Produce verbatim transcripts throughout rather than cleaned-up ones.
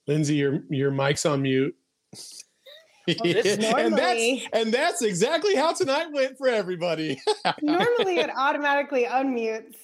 Lindsay, your your mic's on mute. Well, this normally, and that's and that's exactly how tonight went for everybody. Normally it automatically unmutes.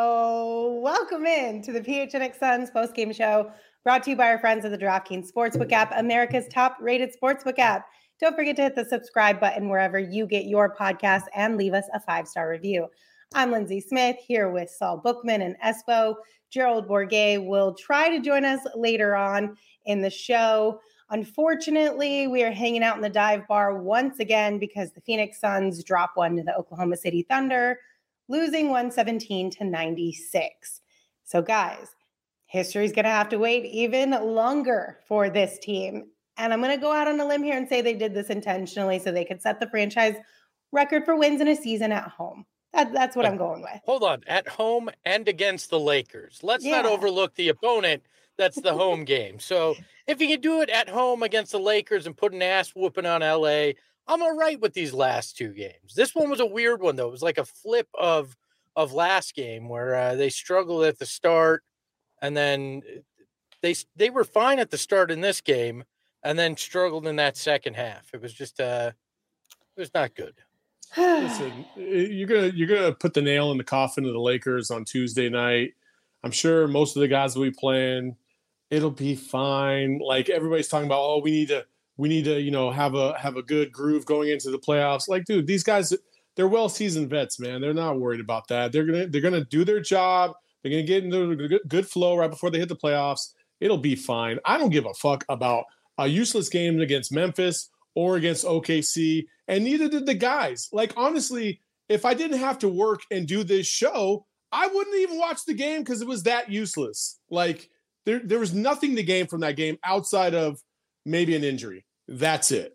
So welcome in to the P H N X Suns post-game show, brought to you by our friends at the DraftKings Sportsbook app, America's top-rated sportsbook app. Don't forget to hit the subscribe button wherever you get your podcast and leave us a five-star review. I'm Lindsay Smith here with Saul Bookman and Espo. Gerald Bourguet will try to join us later on in the show. Unfortunately, we are hanging out in the dive bar once again because the Phoenix Suns drop one to the Oklahoma City Thunder, losing one seventeen to ninety-six. So guys, history's going to have to wait even longer for this team. And I'm going to go out on a limb here and say they did this intentionally so they could set the franchise record for wins in a season at home. That, that's what uh, I'm going with. Hold on. At home and against the Lakers. Let's yeah. not overlook the opponent. That's the home game. So if you can do it at home against the Lakers and put an ass whooping on L A, I'm all right with these last two games. This one was a weird one, though. It was like a flip of of last game where uh, they struggled at the start, and then they they were fine at the start in this game, and then struggled in that second half. It was just uh, it was not good. Listen, you're gonna you're gonna put the nail in the coffin of the Lakers on Tuesday night. I'm sure most of the guys will be playing. It'll be fine. Like everybody's talking about, oh, we need to, we need to, you know, have a have a good groove going into the playoffs. Like, dude, these guys, they're well seasoned vets, man. They're not worried about that. They're gonna they're gonna do their job. They're gonna get into a good flow right before they hit the playoffs. It'll be fine. I don't give a fuck about a useless game against Memphis or against O K C, and neither did the guys. Like, honestly, if I didn't have to work and do this show, I wouldn't even watch the game because it was that useless. Like. There, there was nothing to gain from that game outside of maybe an injury. That's it.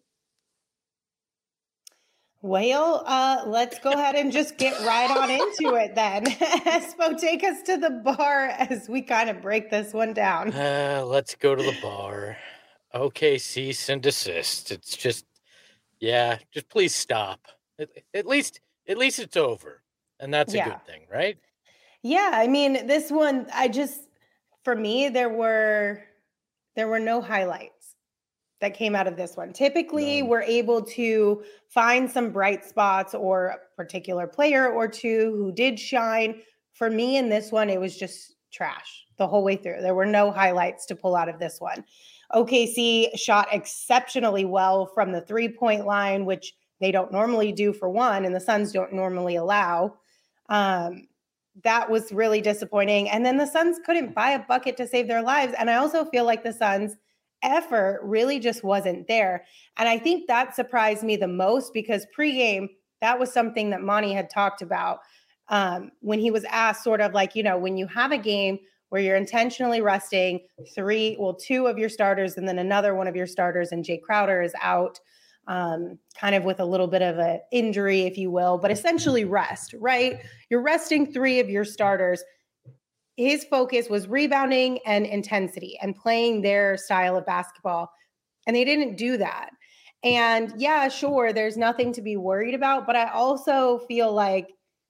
Well, uh, let's go ahead and just get right on into it then. Espo, take us to the bar as we kind of break this one down. Uh, let's go to the bar. Okay, cease and desist. It's just, yeah, just please stop. At, at least, at least it's over, and that's a yeah. good thing, right? Yeah, I mean, this one, I just. For me, there were there were no highlights that came out of this one. Typically, no. we're able to find some bright spots or a particular player or two who did shine. For me, in this one, it was just trash the whole way through. There were no highlights to pull out of this one. O K C shot exceptionally well from the three-point line, which they don't normally do for one, and the Suns don't normally allow. Um, That was really disappointing. And then the Suns couldn't buy a bucket to save their lives. And I also feel like the Suns' effort really just wasn't there. And I think that surprised me the most because pregame, that was something that Monty had talked about um, when he was asked sort of like, you know, when you have a game where you're intentionally resting three, well, two of your starters and then another one of your starters and Jay Crowder is out. Um, kind of with a little bit of an injury, if you will, but essentially rest, right? You're resting three of your starters. His focus was rebounding and intensity and playing their style of basketball. And they didn't do that. And yeah, sure, there's nothing to be worried about, but I also feel like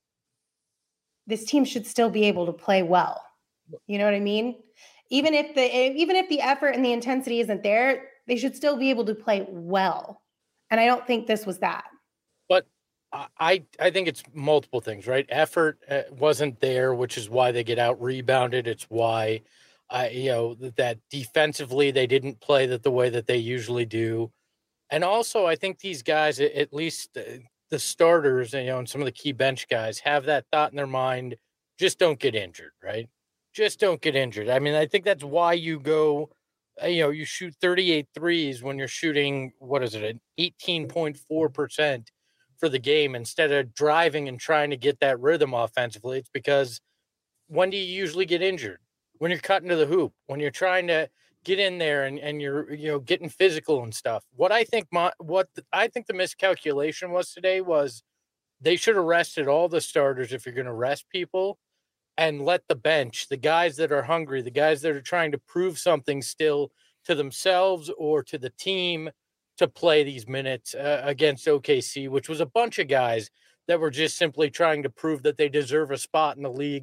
this team should still be able to play well. You know what I mean? Even if the, even if the effort and the intensity isn't there, they should still be able to play well. And I don't think this was that. But I I think it's multiple things, right? Effort uh, wasn't there, which is why they get out rebounded. It's why, uh, you know, that defensively they didn't play that the way that they usually do. And also, I think these guys, at least the starters, you know, and some of the key bench guys have that thought in their mind, just don't get injured, right? Just don't get injured. I mean, I think that's why you go – you know, you shoot thirty-eight threes when you're shooting, what is it, an eighteen point four percent for the game instead of driving and trying to get that rhythm offensively. It's because when do you usually get injured? When you're cutting to the hoop, when you're trying to get in there and, and you're, you know, getting physical and stuff. What I think my, what the, I think the miscalculation was today was they should have rested all the starters if you're going to rest people. And let the bench, the guys that are hungry, the guys that are trying to prove something still to themselves or to the team to play these minutes uh, against O K C, which was a bunch of guys that were just simply trying to prove that they deserve a spot in the league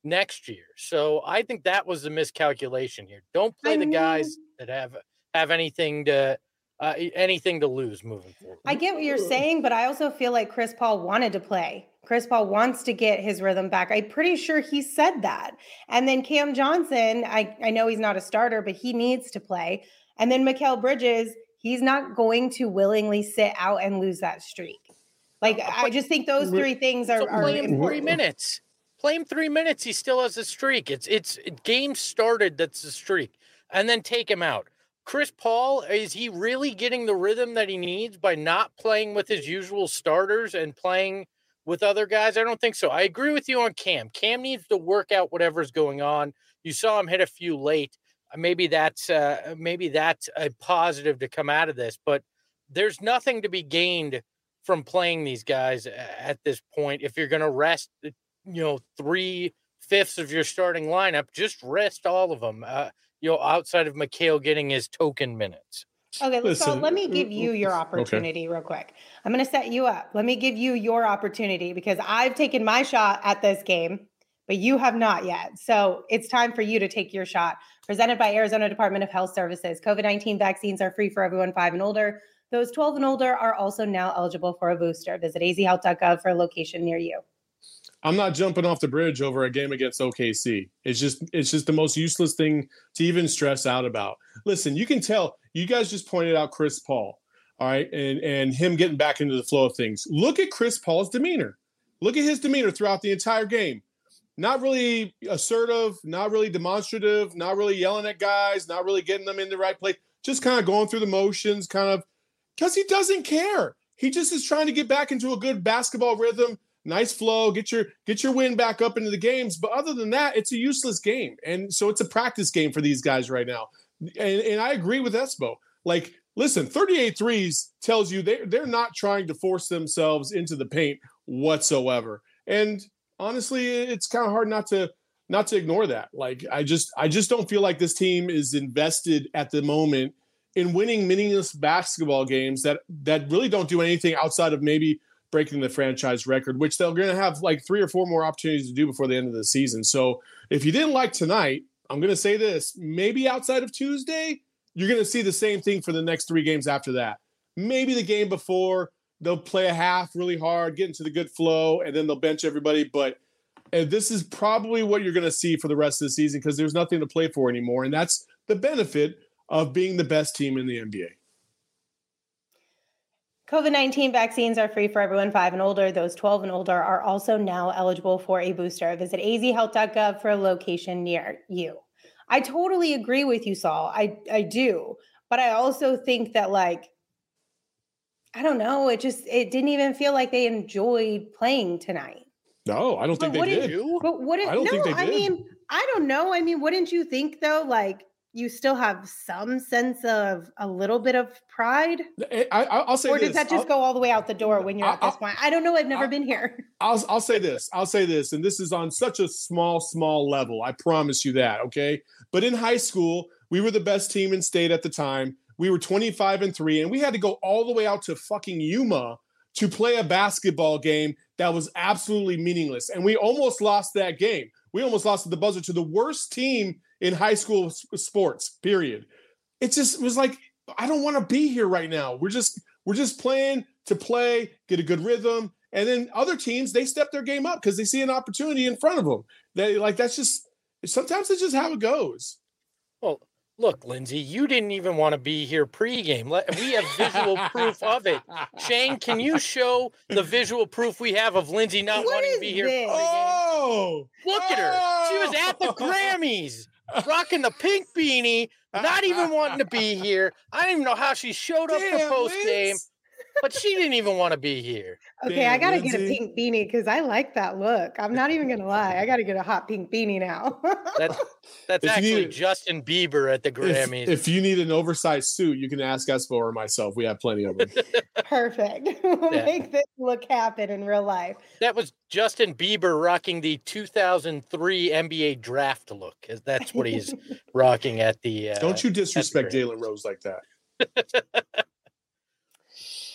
next year. So I think that was the miscalculation here. Don't play I the mean, guys that have have anything to uh, anything to lose moving forward. I get what you're saying, but I also feel like Chris Paul wanted to play. Chris Paul wants to get his rhythm back. I'm pretty sure he said that. And then Cam Johnson, I, I know he's not a starter, but he needs to play. And then Mikal Bridges, he's not going to willingly sit out and lose that streak. Like, I just think those three things are, so are play him important. three minutes. Play him three minutes. He still has a streak. It's it's game started. That's the streak, and then take him out. Chris Paul, is he really getting the rhythm that he needs by not playing with his usual starters and playing with other guys? I don't think so. I agree with you on Cam. Cam needs to work out whatever's going on. You saw him hit a few late. Maybe that's uh, maybe that's a positive to come out of this, but there's nothing to be gained from playing these guys at this point. If you're going to rest, you know, three fifths of your starting lineup, just rest all of them. Uh, you know, outside of Mikal getting his token minutes. Okay, Listen, so let me give you your opportunity okay. real quick. I'm going to set you up. Let me give you your opportunity because I've taken my shot at this game, but you have not yet. So it's time for you to take your shot. Presented by Arizona Department of Health Services. COVID nineteen vaccines are free for everyone five and older. Those twelve and older are also now eligible for a booster. Visit a z health dot gov for a location near you. I'm not jumping off the bridge over a game against O K C. It's just it's just the most useless thing to even stress out about. Listen, you can tell, you guys just pointed out Chris Paul, all right, and, and him getting back into the flow of things. Look at Chris Paul's demeanor. Look at his demeanor throughout the entire game. Not really assertive, not really demonstrative, not really yelling at guys, not really getting them in the right place, just kind of going through the motions, kind of, because he doesn't care. He just is trying to get back into a good basketball rhythm, nice flow, get your get your win back up into the games. But other than that, it's a useless game. And so it's a practice game for these guys right now. And, and I agree with Espo. Like, listen, thirty-eight threes tells you they, they're not trying to force themselves into the paint whatsoever. And honestly, it's kind of hard not to not to ignore that. Like, I just I just don't feel like this team is invested at the moment in winning meaningless basketball games that that really don't do anything outside of maybe breaking the franchise record, which they're going to have like three or four more opportunities to do before the end of the season. So if you didn't like tonight, I'm going to say this, maybe outside of Tuesday, you're going to see the same thing for the next three games after that. Maybe the game before, they'll play a half really hard, get into the good flow, and then they'll bench everybody. But and this is probably what you're going to see for the rest of the season because there's nothing to play for anymore. And that's the benefit of being the best team in the N B A. COVID nineteen vaccines are free for everyone five and older. Those twelve and older are also now eligible for a booster. Visit a z health dot gov for a location near you. I totally agree with you, Saul. I, I do. But I also think that, like, I don't know, it just, it didn't even feel like they enjoyed playing tonight. No, I don't think but they did. You, but what I don't no, think they did. I mean, I don't know. I mean, wouldn't you think, though, like, you still have some sense of a little bit of pride? I, I, I'll say or does this. that just I'll, go all the way out the door when you're I'll, at this I'll, point? I don't know. I've never I'll, been here. I'll, I'll say this. I'll say this. And this is on such a small, small level. I promise you that. Okay. But in high school, we were the best team in state at the time. We were twenty-five and three, and we had to go all the way out to fucking Yuma to play a basketball game that was absolutely meaningless. And we almost lost that game. We almost lost at the buzzer to the worst team in high school sports, period. It just was like, I don't want to be here right now. We're just, we're just playing to play, get a good rhythm. And then other teams, they step their game up because they see an opportunity in front of them. They like, that's just, sometimes it's just how it goes. Well, look, Lindsay, you didn't even want to be here pregame. We have visual proof of it. Shane, can you show the visual proof we have of Lindsay not what wanting to be here this? pregame? Oh, look oh. at her. She was at the Grammys, rocking the pink beanie, not even wanting to be here. I don't even know how she showed up Damn, for postgame, Liz. but she didn't even want to be here. Okay, Damn, I gotta Lindsay. get a pink beanie because I like that look. I'm not even gonna lie. I gotta get a hot pink beanie now. That's that's If you actually need- Justin Bieber at the If, Grammys. if you need an oversized suit, you can ask Espo or myself. We have plenty of them. Perfect. We'll Yeah. make this look happen in real life. That was Justin Bieber rocking the two thousand three N B A draft look. 'Cause that's what he's rocking at the. Uh, Don't you disrespect Grammys. Jalen Rose like that.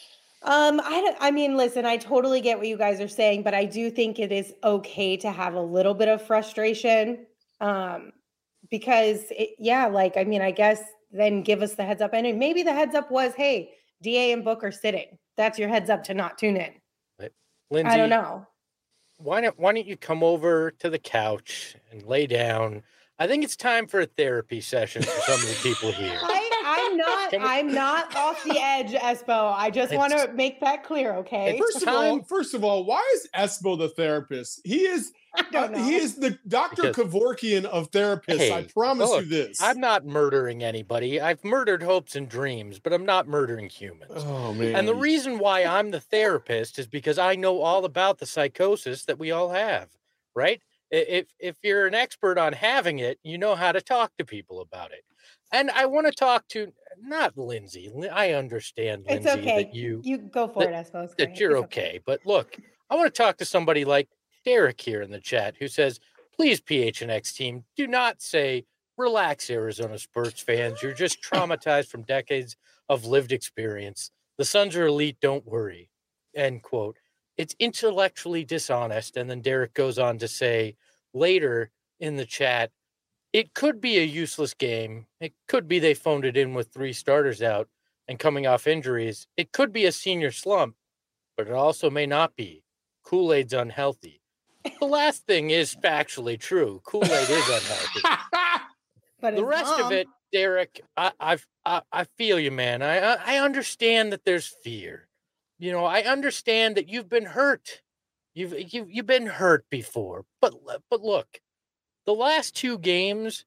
Um, I don't, I mean, listen, I totally get what you guys are saying, but I do think it is okay to have a little bit of frustration. Um, because it, yeah, like, I mean, I guess then give us the heads up. And maybe the heads up was, hey, D A and Book are sitting. That's your heads up to not tune in. Right. Lindsay, I don't know. Why don't why don't you come over to the couch and lay down? I think it's time for a therapy session for some of the people here. I, I'm not. I'm not off the edge, Espo. I just want to make that clear, okay? First of all, first of all, why is Espo the therapist? He is. I don't know. He is the Doctor Because- Kevorkian of therapists. Hey, I promise look, you this. I'm not murdering anybody. I've murdered hopes and dreams, but I'm not murdering humans. Oh man! And the reason why I'm the therapist is because I know all about the psychosis that we all have, right? I- If if you're an expert on having it, you know how to talk to people about it. And I want to talk to not Lindsay. Lin- I understand, It's Lindsay, okay. that you You go for it, Espo. It's that great. you're It's okay. But look, I want to talk to somebody like Derek here in the chat who says, please, P H N X team, do not say, relax, Arizona Spurs fans. You're just traumatized from decades of lived experience. The Suns are elite. Don't worry. End quote. It's intellectually dishonest. And then Derek goes on to say later in the chat, it could be a useless game. It could be they phoned it in with three starters out and coming off injuries. It could be a senior slump, but it also may not be. Kool-Aid's unhealthy. The last thing is factually true. Kool-Aid is unhealthy. But The his rest of mom- it, Derek, I, I've, I, I feel you, man. I, I, I understand that there's fear. You know, I understand that you've been hurt. You've, you've, you've been hurt before. But, but look, the last two games,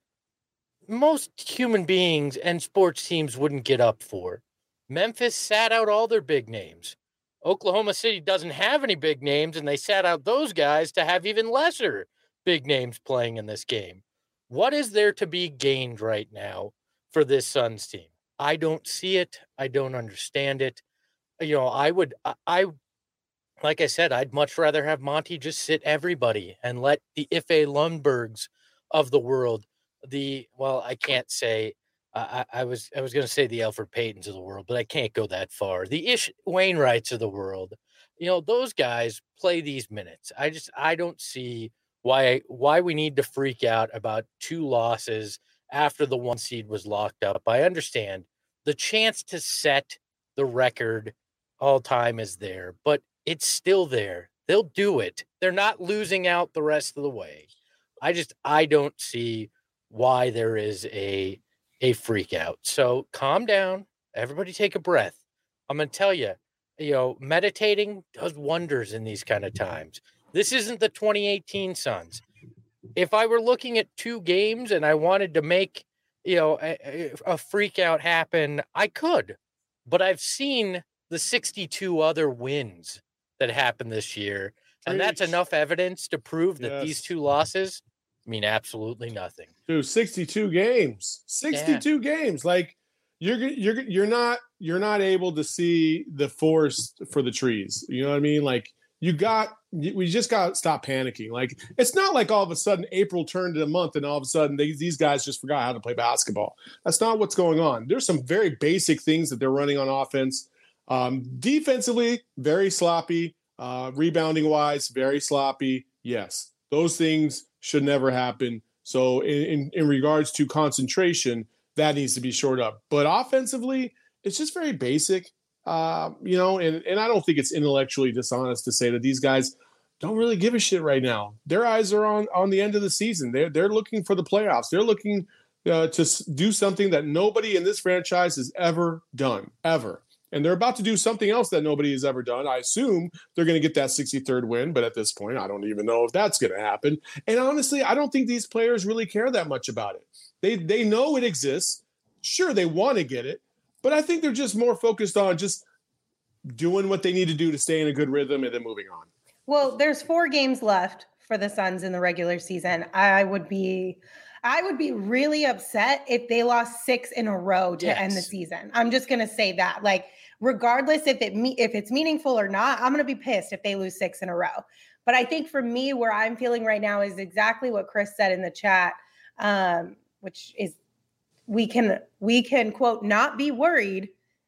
most human beings and sports teams wouldn't get up for. Memphis sat out all their big names. Oklahoma City doesn't have any big names, and they sat out those guys to have even lesser big names playing in this game. What is there to be gained right now for this Suns team? I don't see it. I don't understand it. You know, I would, I, I like I said, I'd much rather have Monty just sit everybody and let the Ife Lundbergs of the world, the, well, I can't say, I, I was I was going to say the Elfrid Paytons of the world, but I can't go that far. The Ish Wainwrights of the world, you know, those guys play these minutes. I just I don't see why why we need to freak out about two losses after the one seed was locked up. I understand the chance to set the record all time is there, but it's still there. They'll do it. They're not losing out the rest of the way. I just I don't see why there is a a freak out. So calm down. Everybody take a breath. I'm going to tell you, you know, meditating does wonders in these kind of times. This isn't the twenty eighteen Suns. If I were looking at two games and I wanted to make, you know, a, a freak out happen, I could. But I've seen the sixty-two other wins that happened this year. And that's Preach. enough evidence to prove that these Yes. two losses mean absolutely nothing. Dude, sixty-two games. sixty-two games. Like you're you're you're not you're not able to see the forest for the trees. You know what I mean? Like you got we just got to stop panicking. Like it's not like all of a sudden April turned to a month and all of a sudden they, these guys just forgot how to play basketball. That's not what's going on. There's some very basic things that they're running on offense. Um, defensively, very sloppy. Uh, rebounding wise, very sloppy. Yes, those things should never happen. So in, in, in regards to concentration, that needs to be shored up. But offensively, it's just very basic, uh, you know, and, and I don't think it's intellectually dishonest to say that these guys don't really give a shit right now. Their eyes are on, on the end of the season. They're, they're looking for the playoffs. They're looking uh, to s- do something that nobody in this franchise has ever done, ever. And they're about to do something else that nobody has ever done. I assume they're going to get that sixty-third win, but at this point, I don't even know if that's going to happen. And honestly, I don't think these players really care that much about it. They they know it exists. Sure, they want to get it, but I think they're just more focused on just doing what they need to do to stay in a good rhythm and then moving on. Well, there's four games left for the Suns in the regular season. I would be I would be really upset if they lost six in a row to Yes. end the season. I'm just going to say that. Like regardless if it me if it's meaningful or not, I'm going to be pissed if they lose six in a row. But I think for me where I'm feeling right now is exactly what Chris said in the chat, um, which is we can we can quote not be worried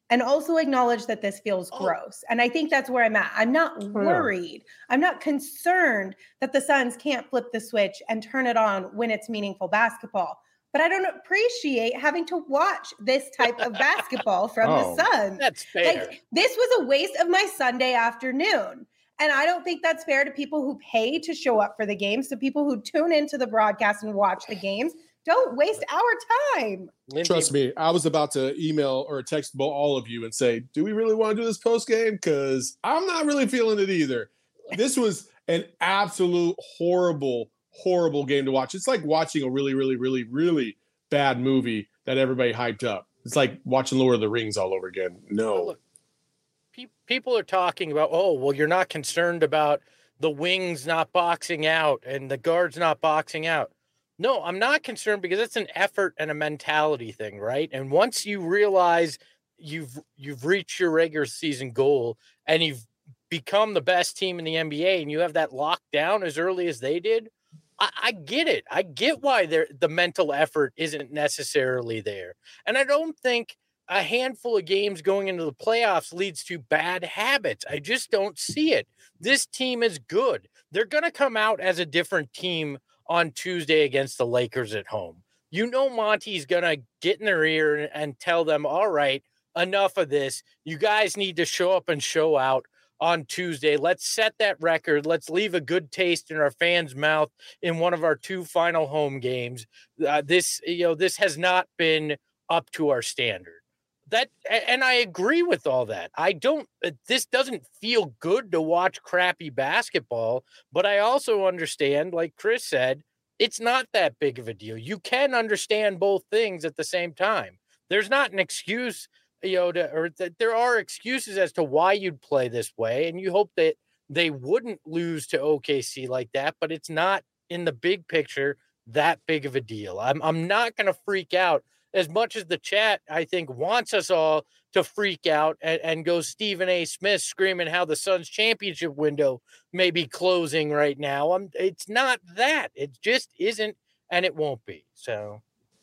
and also acknowledge that this feels Oh. gross. And I think that's where I'm at. I'm not worried. I'm not concerned that the Suns can't flip the switch and turn it on when it's meaningful basketball. But I don't appreciate having to watch this type of basketball from Oh. the Suns. That's fair. Like, this was a waste of my Sunday afternoon. And I don't think that's fair to people who pay to show up for the games, to people who tune into the broadcast and watch the games. Don't waste our time. Lindsay, Trust me, I was about to email or text bo- all of you and say, do we really want to do this post game? Because I'm not really feeling it either. This was an absolute horrible, horrible game to watch. It's like watching a really, really, really, really bad movie that everybody hyped up. It's like watching Lord of the Rings all over again. No. Look, pe- people are talking about, oh, well, you're not concerned about the wings not boxing out and the guards not boxing out. No, I'm not concerned because it's an effort and a mentality thing, right? And once you realize you've you've reached your regular season goal and you've become the best team in the N B A and you have that locked down as early as they did, I, I get it. I get why the mental effort isn't necessarily there. And I don't think a handful of games going into the playoffs leads to bad habits. I just don't see it. This team is good. They're going to come out as a different team on Tuesday against the Lakers at home. You know Monty's going to get in their ear and tell them, all right, enough of this. You guys need to show up and show out on Tuesday. Let's set that record. Let's leave a good taste in our fans' mouth in one of our two final home games. Uh, this, you know, this has not been up to our standard. That, and I agree with all that. I don't, this doesn't feel good to watch crappy basketball, but I also understand, like Chris said, it's not that big of a deal. You can understand both things at the same time. There's not an excuse, you know, to, or that there are excuses as to why you'd play this way. And you hope that they wouldn't lose to O K C like that, but it's not in the big picture that big of a deal. I'm, I'm not going to freak out as much as the chat, I think, wants us all to freak out and, and go Stephen A. Smith screaming how the Suns championship window may be closing right now. I'm, it's not that. It just isn't, and it won't be. So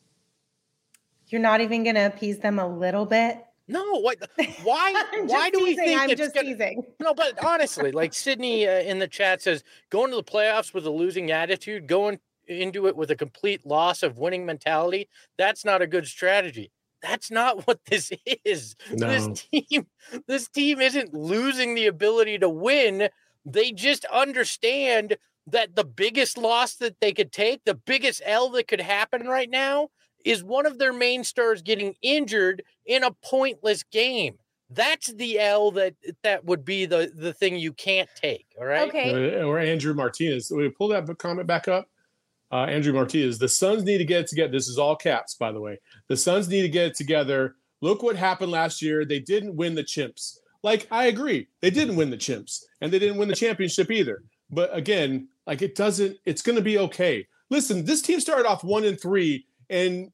you're not even going to appease them a little bit? No, what? Why? why do teasing. we think I'm it's just gonna, teasing? No, but honestly, like Sydney uh, in the chat says, going to the playoffs with a losing attitude, going into it with a complete loss of winning mentality, that's not a good strategy. That's not what this is. No. This team, this team isn't losing the ability to win. They just understand that the biggest loss that they could take, the biggest L that could happen right now, is one of their main stars getting injured in a pointless game. That's the L that that would be the, the thing you can't take. All right. Okay. Or Andrew Martinez. We pull that comment back up. Uh, Andrew Martinez, the Suns need to get it together. This is all caps, by the way. The Suns need to get it together. Look what happened last year. They didn't win the chimps. Like, I agree. They didn't win the chimps, and they didn't win the championship either. But again, like, it doesn't, it's going to be okay. Listen, this team started off one and three, and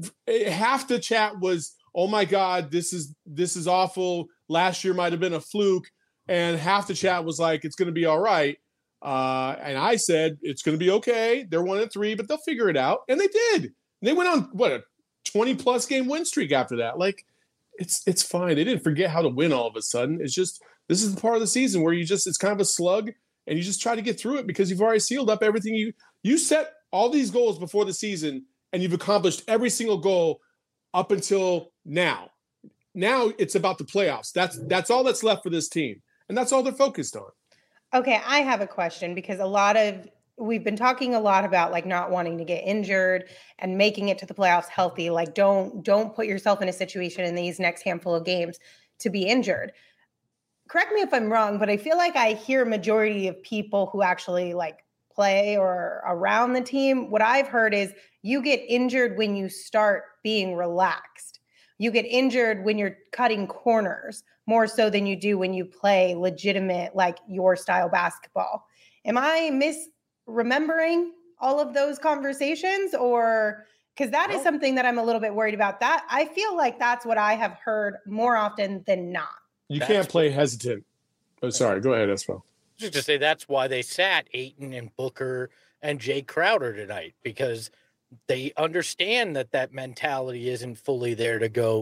half the chat was, oh my God, this is, this is awful. Last year might've been a fluke. And half the chat was like, it's going to be all right. Uh, and I said, it's going to be okay. They're one and three, but they'll figure it out. And they did. They went on, what, a twenty plus game win streak after that. Like, it's it's fine. They didn't forget how to win all of a sudden. It's just, this is the part of the season where you just, it's kind of a slug and you just try to get through it because you've already sealed up everything. You, you set all these goals before the season and you've accomplished every single goal up until now. Now it's about the playoffs. That's, that's all that's left for this team. And that's all they're focused on. Okay, I have a question because a lot of we've been talking a lot about like not wanting to get injured and making it to the playoffs healthy. Like don't don't put yourself in a situation in these next handful of games to be injured. Correct me if I'm wrong, but I feel like I hear a majority of people who actually like play or around the team. What I've heard is you get injured when you start being relaxed. You get injured when you're cutting corners more so than you do when you play legitimate, like your style basketball. Am I misremembering all of those conversations? Or because that is something that I'm a little bit worried about. That I feel like that's what I have heard more often than not. You That's can't play hesitant. Oh, sorry. Go ahead, Espo. Just to say that's why they sat Ayton and Booker and Jay Crowder tonight, because they understand that that mentality isn't fully there to go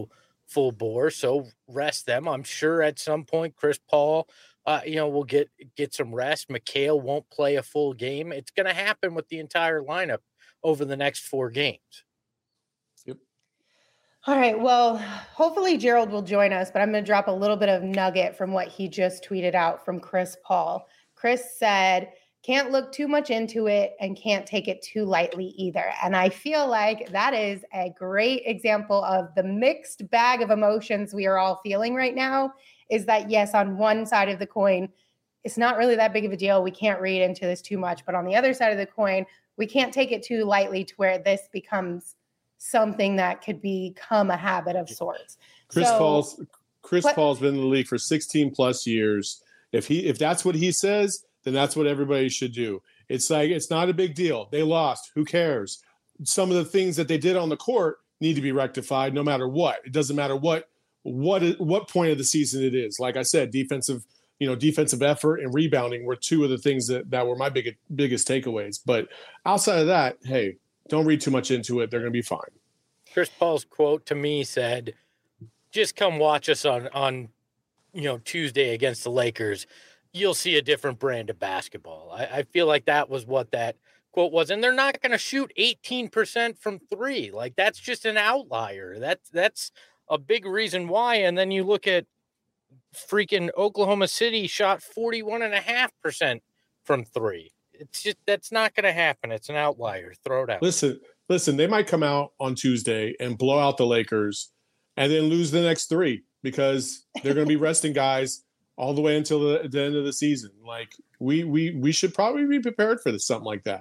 full bore. So rest them. I'm sure at some point Chris Paul, uh, you know, will get get some rest. Mikal won't play a full game. It's going to happen with the entire lineup over the next four games. Yep. All right. Well, hopefully Gerald will join us, but I'm going to drop a little bit of nugget from what he just tweeted out from Chris Paul. Chris said, can't look too much into it and can't take it too lightly either. And I feel like that is a great example of the mixed bag of emotions we are all feeling right now. Is that, yes, on one side of the coin, it's not really that big of a deal. We can't read into this too much. But on the other side of the coin, we can't take it too lightly to where this becomes something that could become a habit of sorts. Chris so, Paul's Chris what, Paul's been in the league for sixteen plus years. If he if that's what he says, then that's what everybody should do. It's like, it's not a big deal. They lost. Who cares? Some of the things that they did on the court need to be rectified no matter what. It doesn't matter what what what point of the season it is. Like I said, defensive, you know, defensive effort and rebounding were two of the things that, that were my big, biggest takeaways. But outside of that, hey, don't read too much into it. They're going to be fine. Chris Paul's quote to me said, just come watch us on, on, you know, Tuesday against the Lakers. You'll see a different brand of basketball. I, I feel like that was what that quote was. And they're not going to shoot eighteen percent from three. Like, that's just an outlier. That's, that's a big reason why. And then you look at freaking Oklahoma City shot forty-one and a half percent from three. It's just, that's not going to happen. It's an outlier. Throw it out. Listen, listen, they might come out on Tuesday and blow out the Lakers and then lose the next three because they're going to be resting guys all the way until the, the end of the season. Like, we, we, we should probably be prepared for this, something like that.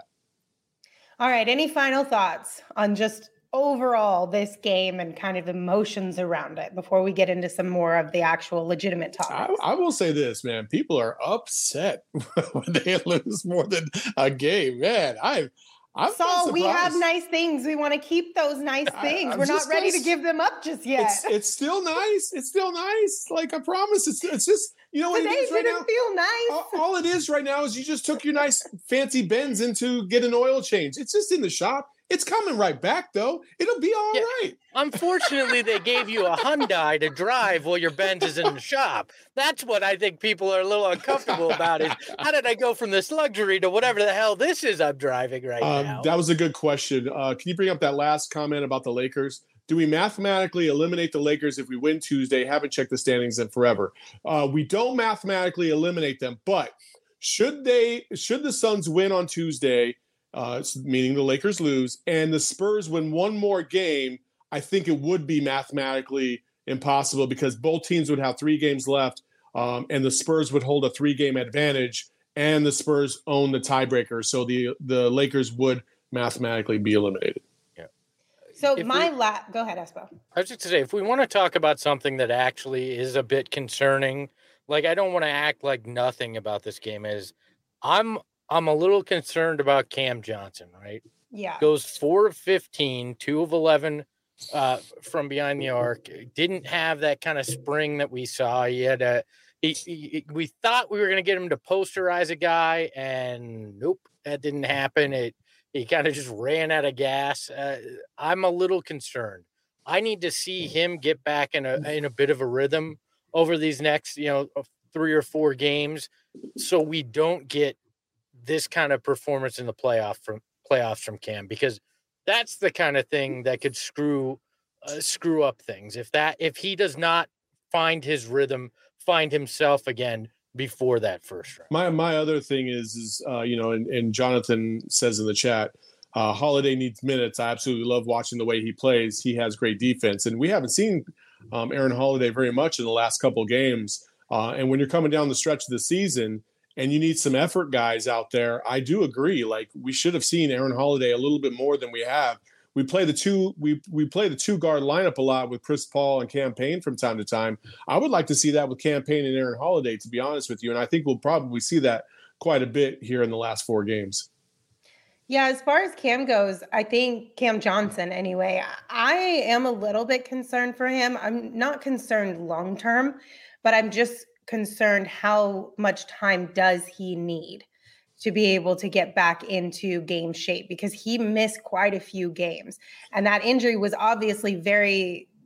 All right. Any final thoughts on just overall this game and kind of emotions around it before we get into some more of the actual legitimate topics? I, I will say this, man. People are upset when they lose more than a game. Man, I, I'm Saul, we have nice things. We want to keep those nice things. I, We're not ready to give them up just yet. It's, it's still nice. It's still nice. Like, I promise. It's it's just, you know what Today it is right didn't now? feel nice. All, all it is right now is you just took your nice fancy Benz in to get an oil change. It's just in the shop. It's coming right back, though. It'll be all yeah. right. Unfortunately, they gave you a Hyundai to drive while your Benz is in the shop. That's what I think people are a little uncomfortable about is, how did I go from this luxury to whatever the hell this is I'm driving right um, now? That was a good question. Uh, can you bring up that last comment about the Lakers? Do we mathematically eliminate the Lakers if we win Tuesday? Haven't checked the standings in forever. Uh, we don't mathematically eliminate them, but should they? Should the Suns win on Tuesday, uh, meaning the Lakers lose, and the Spurs win one more game, I think it would be mathematically impossible because both teams would have three games left, um, and the Spurs would hold a three-game advantage, and the Spurs own the tiebreaker, so the the Lakers would mathematically be eliminated. So if my we, la- go ahead, Espo. I was just to say, if we want to talk about something that actually is a bit concerning, like I don't want to act like nothing about this game is, I'm I'm a little concerned about Cam Johnson, right? Yeah. Goes four of fifteen, two of eleven uh, from behind the arc. Didn't have that kind of spring that we saw. He had a he, he, we thought we were going to get him to posterize a guy, and nope, that didn't happen. It He kind of just ran out of gas. Uh, I'm a little concerned. I need to see him get back in a in a bit of a rhythm over these next, you know, three or four games, so we don't get this kind of performance in the playoff from playoffs from Cam, because that's the kind of thing that could screw uh, screw up things. If that if he does not find his rhythm, find himself again before that first round. My my other thing is is uh, you know, and, and Jonathan says in the chat, uh, Holiday needs minutes. I absolutely love watching the way he plays. He has great defense, and we haven't seen um, Aaron Holiday very much in the last couple of games. Uh, and when you're coming down the stretch of the season and you need some effort guys out there, I do agree. Like, we should have seen Aaron Holiday a little bit more than we have. We play the two we we play the two guard lineup a lot with Chris Paul and Cam Payne from time to time. I would like to see that with Cam Payne and Aaron Holiday, to be honest with you. And I think we'll probably see that quite a bit here in the last four games. Yeah, as far as Cam goes, I think Cam Johnson anyway, I am a little bit concerned for him. I'm not concerned long term, but I'm just concerned how much time does he need to be able to get back into game shape, because he missed quite a few games. And that injury was obviously very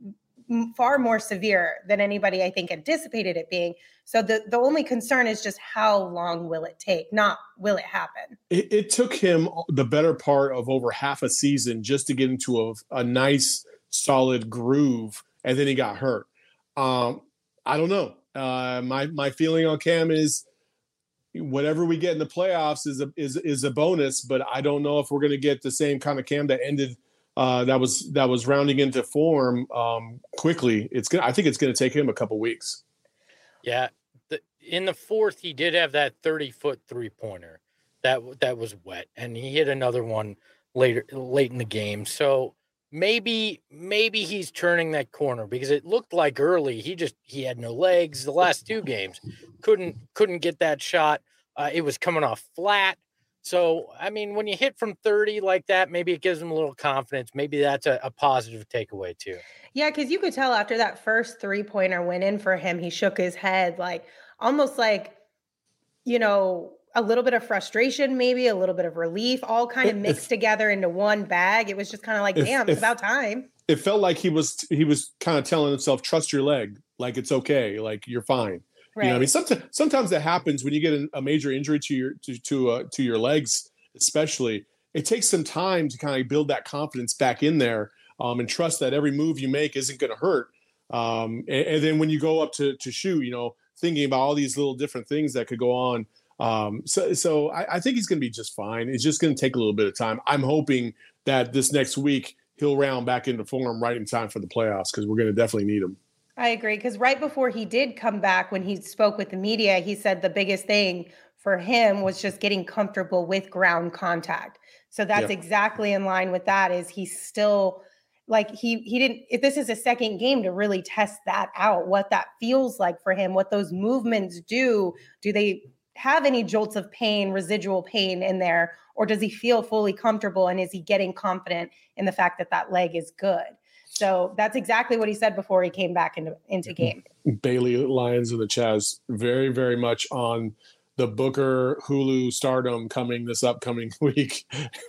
m- far more severe than anybody, I think, anticipated it being. So the, the only concern is just how long will it take, not will it happen? It, it took him the better part of over half a season just to get into a, a nice, solid groove, and then he got hurt. Um, I don't know. Uh, my my feeling on Cam is whatever we get in the playoffs is a is is a bonus, but I don't know if we're going to get the same kind of Cam that ended uh, that was that was rounding into form um, quickly. It's gonna. I think it's going to take him a couple weeks. Yeah, the, in the fourth, he did have that thirty-foot three-pointer that that was wet, and he hit another one later late in the game. So maybe maybe he's turning that corner, because it looked like early he just he had no legs. The last two games couldn't couldn't get that shot. Uh, it was coming off flat. So I mean, when you hit from thirty like that, maybe it gives him a little confidence. Maybe that's a, a positive takeaway too. Yeah, because you could tell after that first three-pointer went in for him, he shook his head, like almost like, you know, a little bit of frustration, maybe a little bit of relief, all kind of mixed if, together into one bag. It was just kind of like, if, damn, it's if, about time. It felt like he was he was kind of telling himself, trust your leg, like it's okay, like you're fine. Right. You know, I mean, sometimes sometimes that happens when you get a major injury to your to to, uh, to your legs, especially. It takes some time to kind of build that confidence back in there, um, and trust that every move you make isn't going to hurt. Um, and, and then when you go up to to shoot, you know, thinking about all these little different things that could go on. Um, so, so I, I think he's going to be just fine. It's just going to take a little bit of time. I'm hoping that this next week he'll round back into form right in time for the playoffs, because we're going to definitely need him. I agree. Because right before he did come back, when he spoke with the media, he said the biggest thing for him was just getting comfortable with ground contact. So that's yeah. exactly in line with that. Is he's still like he he didn't. If this is a second game to really test that out, what that feels like for him, what those movements do. Do they have any jolts of pain, residual pain in there, or does he feel fully comfortable, and is he getting confident in the fact that that leg is good? So that's exactly what he said before he came back into, into game. Bailey Lyons in the Chaz, very, very much on the Booker Hulu stardom coming this upcoming week.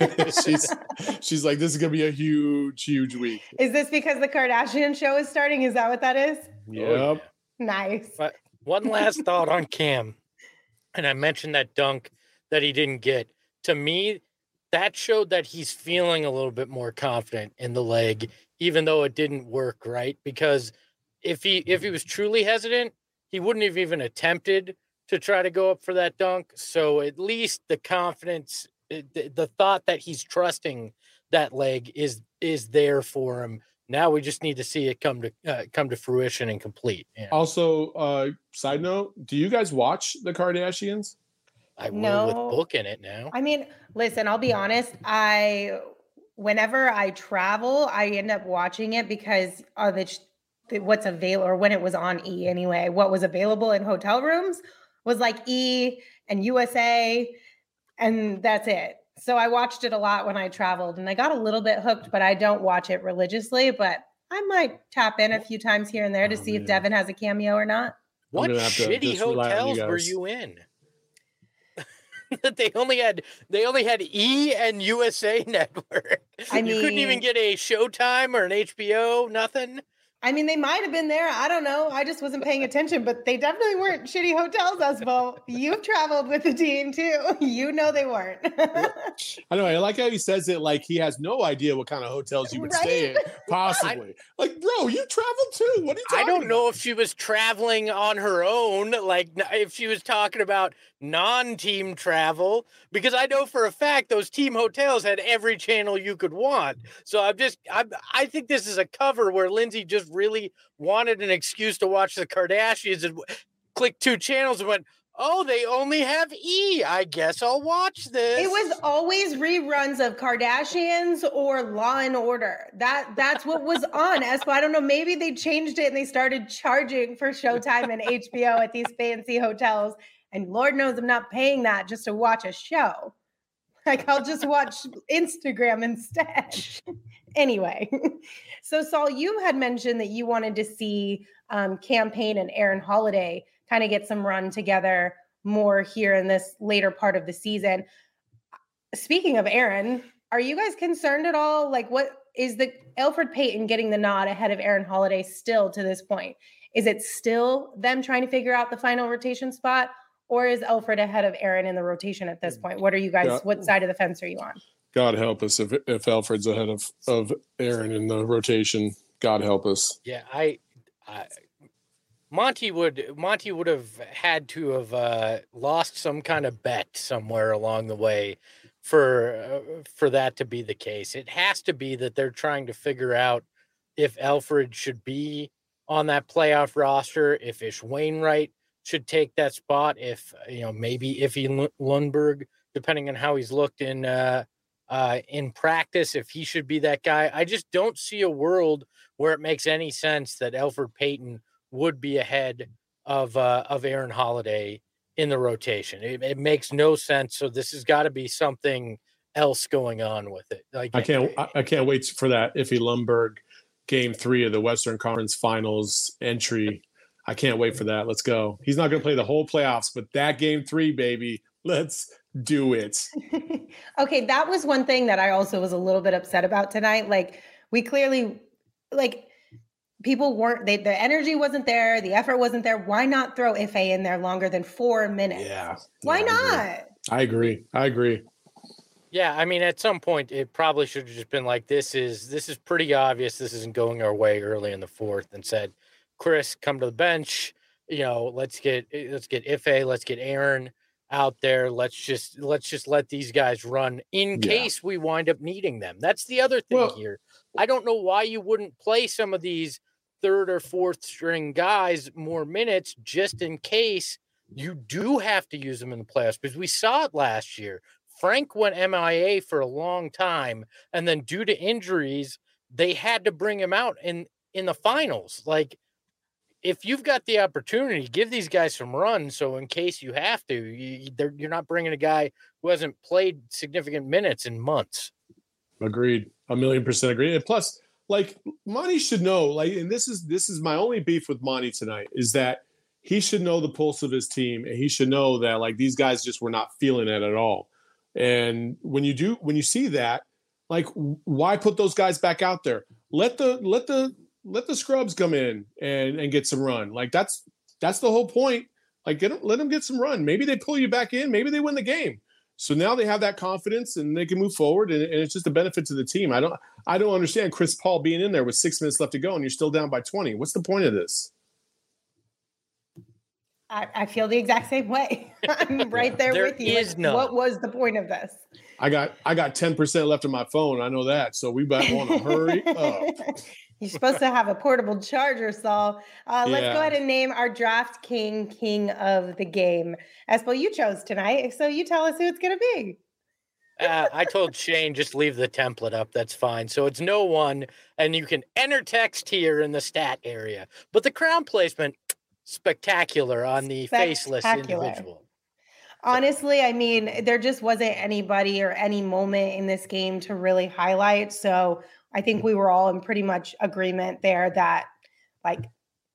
she's she's like, this is going to be a huge, huge week. Is this because the Kardashian show is starting? Is that what that is? Yep. Oh, yeah. Nice. But one last thought on Cam. And I mentioned that dunk that he didn't get. To me, that showed that he's feeling a little bit more confident in the leg, even though it didn't work, right? Because if he if he was truly hesitant, he wouldn't have even attempted to try to go up for that dunk. So at least the confidence, the, the thought that he's trusting that leg is is there for him. Now we just need to see it come to uh, come to fruition and complete. Yeah. Also, uh, side note, do you guys watch the Kardashians? I will no. with Book in it now. I mean, listen, I'll be honest. I, whenever I travel, I end up watching it because of the, the what's available, or when it was on E anyway, what was available in hotel rooms was like E and U S A, and that's it. So I watched it a lot when I traveled, and I got a little bit hooked, but I don't watch it religiously. But I might tap in a few times here and there to oh, see man. if Devin has a cameo or not. What shitty hotels you were you in? That they only had they only had E and U S A Network. I mean, you couldn't even get a Showtime or an H B O, nothing. I mean, they might have been there. I don't know. I just wasn't paying attention, but they definitely weren't shitty hotels, Espo. You've traveled with the team too. You know they weren't. I know. I like how he says it like he has no idea what kind of hotels you would right? stay in, possibly. I, like, bro, you traveled too. What are you talking I don't about? know if she was traveling on her own, like if she was talking about non-team travel, because I know for a fact those team hotels had every channel you could want. So I'm just, I'm, I think this is a cover where Lindsay just really wanted an excuse to watch the Kardashians and clicked two channels and went, oh, they only have E. I guess I'll watch this. It was always reruns of Kardashians or Law and Order. That that's what was on. Espo, I don't know. Maybe they changed it and they started charging for Showtime and H B O at these fancy hotels. And Lord knows I'm not paying that just to watch a show. Like, I'll just watch Instagram instead. Anyway, so Saul, you had mentioned that you wanted to see um, Cam Payne and Aaron Holiday kind of get some run together more here in this later part of the season. Speaking of Aaron, are you guys concerned at all? Like, what is the Elfrid Payton getting the nod ahead of Aaron Holiday still to this point? Is it still them trying to figure out the final rotation spot, or is Elfrid ahead of Aaron in the rotation at this point? What are you guys, yeah. what side of the fence are you on? God help us if if Elfrid's ahead of, of Aaron in the rotation. God help us. Yeah, I, I Monty would Monty would have had to have uh, lost some kind of bet somewhere along the way for uh, for that to be the case. It has to be that they're trying to figure out if Elfrid should be on that playoff roster, if Ish Wainwright should take that spot, if you know maybe Iffy Lundberg, depending on how he's looked in uh, uh, in practice, if he should be that guy. I just don't see a world where it makes any sense that Elfrid Payton would be ahead of uh, of Aaron Holiday in the rotation. It, it makes no sense. So this has got to be something else going on with it. Like I can't I, I can't wait for that Iffy Lundberg game three of the Western Conference Finals entry. I can't wait for that. Let's go. He's not going to play the whole playoffs, but that game three, baby, let's do it. Okay, that was one thing that I also was a little bit upset about tonight. Like we clearly, like people weren't, they, the energy wasn't there. The effort wasn't there. Why not throw Ife in there longer than four minutes? Yeah. Why yeah, not? I agree. I agree. I agree. Yeah, I mean, at some point, it probably should have just been like, this is this is pretty obvious. This isn't going our way early in the fourth, and said, Chris, come to the bench. You know, let's get let's get Ife, let's get Aaron out there. Let's just let's just let these guys run in yeah. case we wind up needing them. That's the other thing well, here. I don't know why you wouldn't play some of these third or fourth string guys more minutes just in case you do have to use them in the playoffs, because we saw it last year. Frank went M I A for a long time, and then due to injuries, they had to bring him out in, in the finals. Like, if you've got the opportunity, give these guys some runs. So in case you have to, you, you're not bringing a guy who hasn't played significant minutes in months. Agreed. A million percent agreed. And plus, like, Monty should know, like, and this is this is my only beef with Monty tonight, is that he should know the pulse of his team, and he should know that, like, these guys just were not feeling it at all. And when you do, when you see that, like, why put those guys back out there? Let the let the let the scrubs come in and, and get some run. Like, that's that's the whole point. Like, get them, let them get some run. Maybe they pull you back in. Maybe they win the game. So now they have that confidence and they can move forward. And, and it's just a benefit to the team. I don't I don't understand Chris Paul being in there with six minutes left to go and you're still down by twenty. What's the point of this? I, I feel the exact same way. I'm right there, there with you. Is none. What was the point of this? I got I got ten percent left on my phone. I know that. So we better want to hurry up. You're supposed to have a portable charger, Saul. Uh, let's yeah. go ahead and name our draft king, king of the game. Espo, you chose tonight, so you tell us who it's going to be. uh, I told Shane, just leave the template up. That's fine. So it's no one, and you can enter text here in the stat area. But the crown placement, spectacular on the faceless individual. Honestly, I mean, there just wasn't anybody or any moment in this game to really highlight. So I think we were all in pretty much agreement there that, like,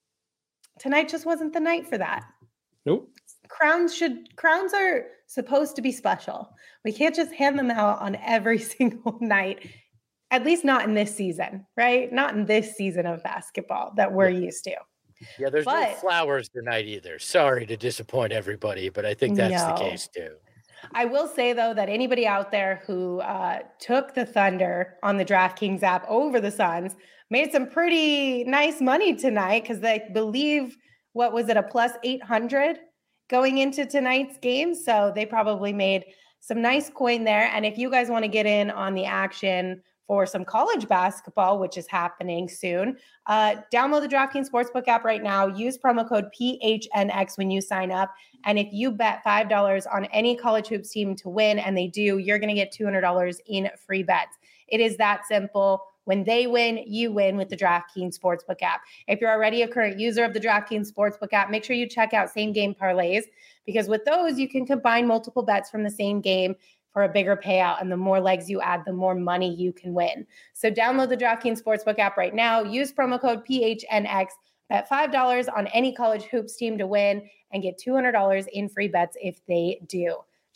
tonight just wasn't the night for that. Nope. Crowns should crowns are supposed to be special. We can't just hand them out on every single night, at least not in this season, right? Not in this season of basketball that we're yeah. used to. Yeah, there's but, no flowers tonight either. Sorry to disappoint everybody, but I think that's no. the case too. I will say, though, that anybody out there who uh, took the Thunder on the DraftKings app over the Suns made some pretty nice money tonight, because they believe, what was it, a plus eight hundred going into tonight's game. So they probably made some nice coin there. And if you guys want to get in on the action for some college basketball, which is happening soon, uh, download the DraftKings Sportsbook app right now. Use promo code P H N X when you sign up. And if you bet five dollars on any college hoops team to win, and they do, you're going to get two hundred dollars in free bets. It is that simple. When they win, you win with the DraftKings Sportsbook app. If you're already a current user of the DraftKings Sportsbook app, make sure you check out Same Game Parlays, because with those, you can combine multiple bets from the same game for a bigger payout. And the more legs you add, the more money you can win. So download the DraftKings Sportsbook app right now. Use promo code P H N X. Bet five dollars on any college hoops team to win and get two hundred dollars in free bets if they do.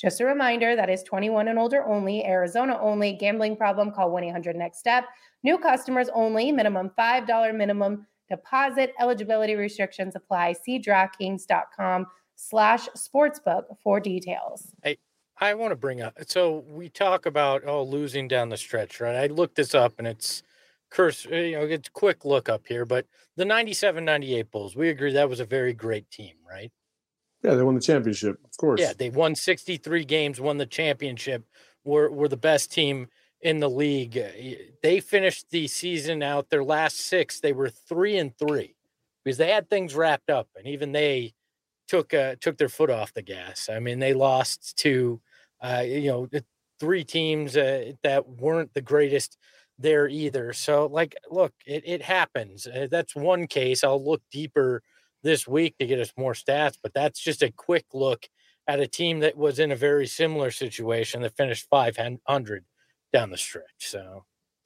Just a reminder, that is twenty-one and older only, Arizona only. Gambling problem, call one eight hundred next step. New customers only, minimum five dollars minimum deposit. Eligibility restrictions apply. See DraftKings.com slash sportsbook for details. Hey, I want to bring up, so we talk about, oh, losing down the stretch, right? I looked this up and it's curse, you know, it's a quick look up here, but the ninety-seven ninety-eight Bulls, we agree that was a very great team, right? Yeah, they won the championship, of course. Yeah, they won sixty-three games, won the championship, were, were the best team in the league. They finished the season out, their last six, they were three and three because they had things wrapped up, and even they took uh, took their foot off the gas. I mean, they lost to, uh, you know, three teams uh, that weren't the greatest there either. So, like, look, it, it happens. Uh, that's one case. I'll look deeper this week to get us more stats, but that's just a quick look at a team that was in a very similar situation that finished five hundred down the stretch. So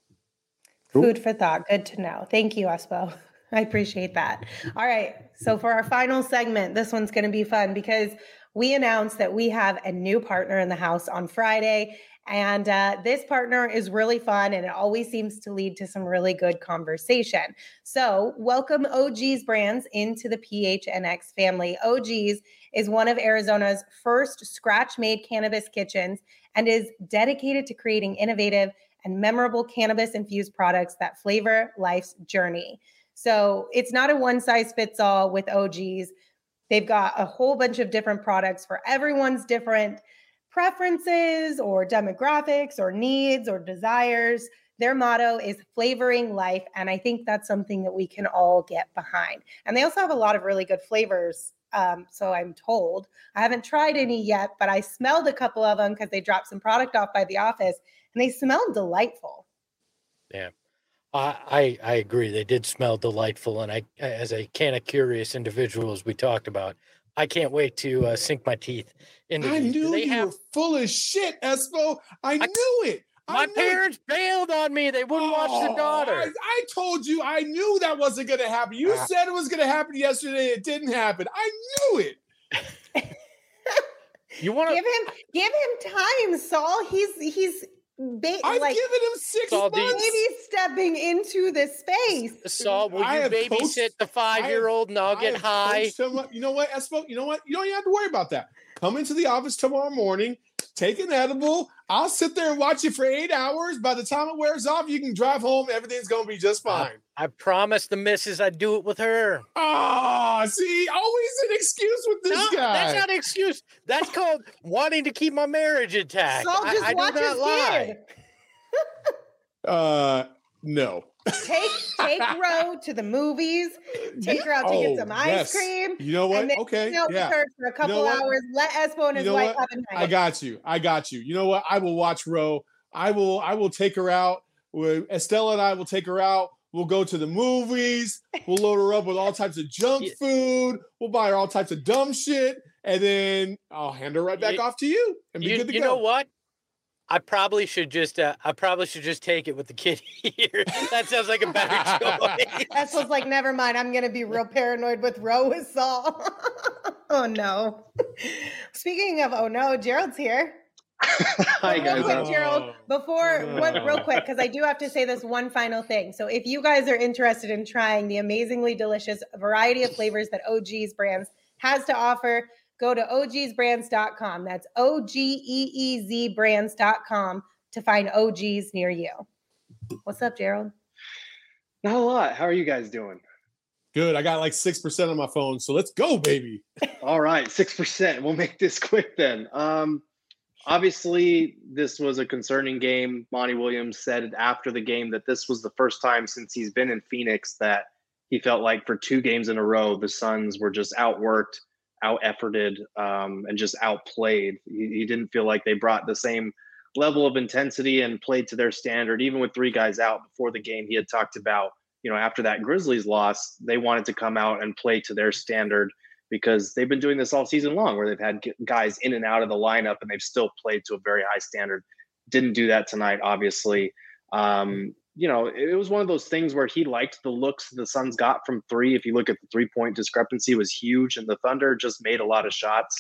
food for thought. Good to know. Thank you, Espo. I appreciate that. All right. So for our final segment, this one's going to be fun because we announced that we have a new partner in the house on Friday. And uh, this partner is really fun, and it always seems to lead to some really good conversation. So welcome O G's Brands into the P H N X family. O G's is one of Arizona's first scratch-made cannabis kitchens and is dedicated to creating innovative and memorable cannabis-infused products that flavor life's journey. So it's not a one-size-fits-all with O G's. They've got a whole bunch of different products for everyone's different preferences or demographics or needs or desires. Their motto is flavoring life. And I think that's something that we can all get behind. And they also have a lot of really good flavors. Um, so I'm told. I haven't tried any yet, but I smelled a couple of them because they dropped some product off by the office and they smelled delightful. Yeah, I, I, I agree. They did smell delightful. And I, as a can of curious individual, as we talked about, I can't wait to uh, sink my teeth into I these. knew you have... were full of shit, Espo. I, I knew it. My I knew parents it. bailed on me. They wouldn't oh, watch the daughter. I, I told you. I knew that wasn't going to happen. You ah. said it was going to happen yesterday. It didn't happen. I knew it. You want to give him give him time, Saul. He's he's ba- I've like, given him six Saul, months. Maybe stepping into this space. Saul, will I you babysit coached, the five-year-old and I'll get high? Him, you know what, Espo? You know what? You don't even have to worry about that. Come into the office tomorrow morning, take an edible. I'll sit there and watch you for eight hours. By the time it wears off, you can drive home. Everything's going to be just fine. I, I promised the missus I'd do it with her. Oh, see, always an excuse with this no, guy. That's not an excuse. That's called wanting to keep my marriage intact. Saul just I, I watch do not his lie. kid. uh, no. Take take Ro to the movies. Take her out to oh, get some ice yes. cream. You know what? And then okay, hang out yeah. with her for a couple you know hours. Let Espo and his you know wife what? have a night. I got you. I got you. You know what? I will watch Ro. I will. I will take her out. Estella and I will take her out. We'll go to the movies. We'll load her up with all types of junk yeah. food. We'll buy her all types of dumb shit, and then I'll hand her right back you, off to you and be you, good to you go. You know what? I probably should just uh, I probably should just take it with the kid here. That sounds like a better choice. Espo's like, never mind. I'm gonna be real paranoid with Ro with Saul. Oh no. Speaking of oh no, Gerald's here. Hi guys. Real quick, Gerald, before Oh. one, real quick, because I do have to say this one final thing. So if you guys are interested in trying the amazingly delicious variety of flavors that O G's Brands has to offer, go to O Gs brands dot com. That's O G E E Z brands dot com to find O Gs near you. What's up, Gerald? Not a lot. How are you guys doing? Good. I got like six percent on my phone, so let's go, baby. All right, six percent. We'll make this quick then. Um, obviously, this was a concerning game. Monty Williams said after the game that this was the first time since he's been in Phoenix that he felt like for two games in a row, the Suns were just outworked, out-efforted, um, and just outplayed. He, he didn't feel like they brought the same level of intensity and played to their standard. Even with three guys out before the game, he had talked about, you know, after that Grizzlies loss, they wanted to come out and play to their standard because they've been doing this all season long where they've had guys in and out of the lineup and they've still played to a very high standard. Didn't do that tonight, obviously. Um, you know, it was one of those things where he liked the looks the Suns got from three. If you look at the three-point discrepancy, it was huge, and the Thunder just made a lot of shots.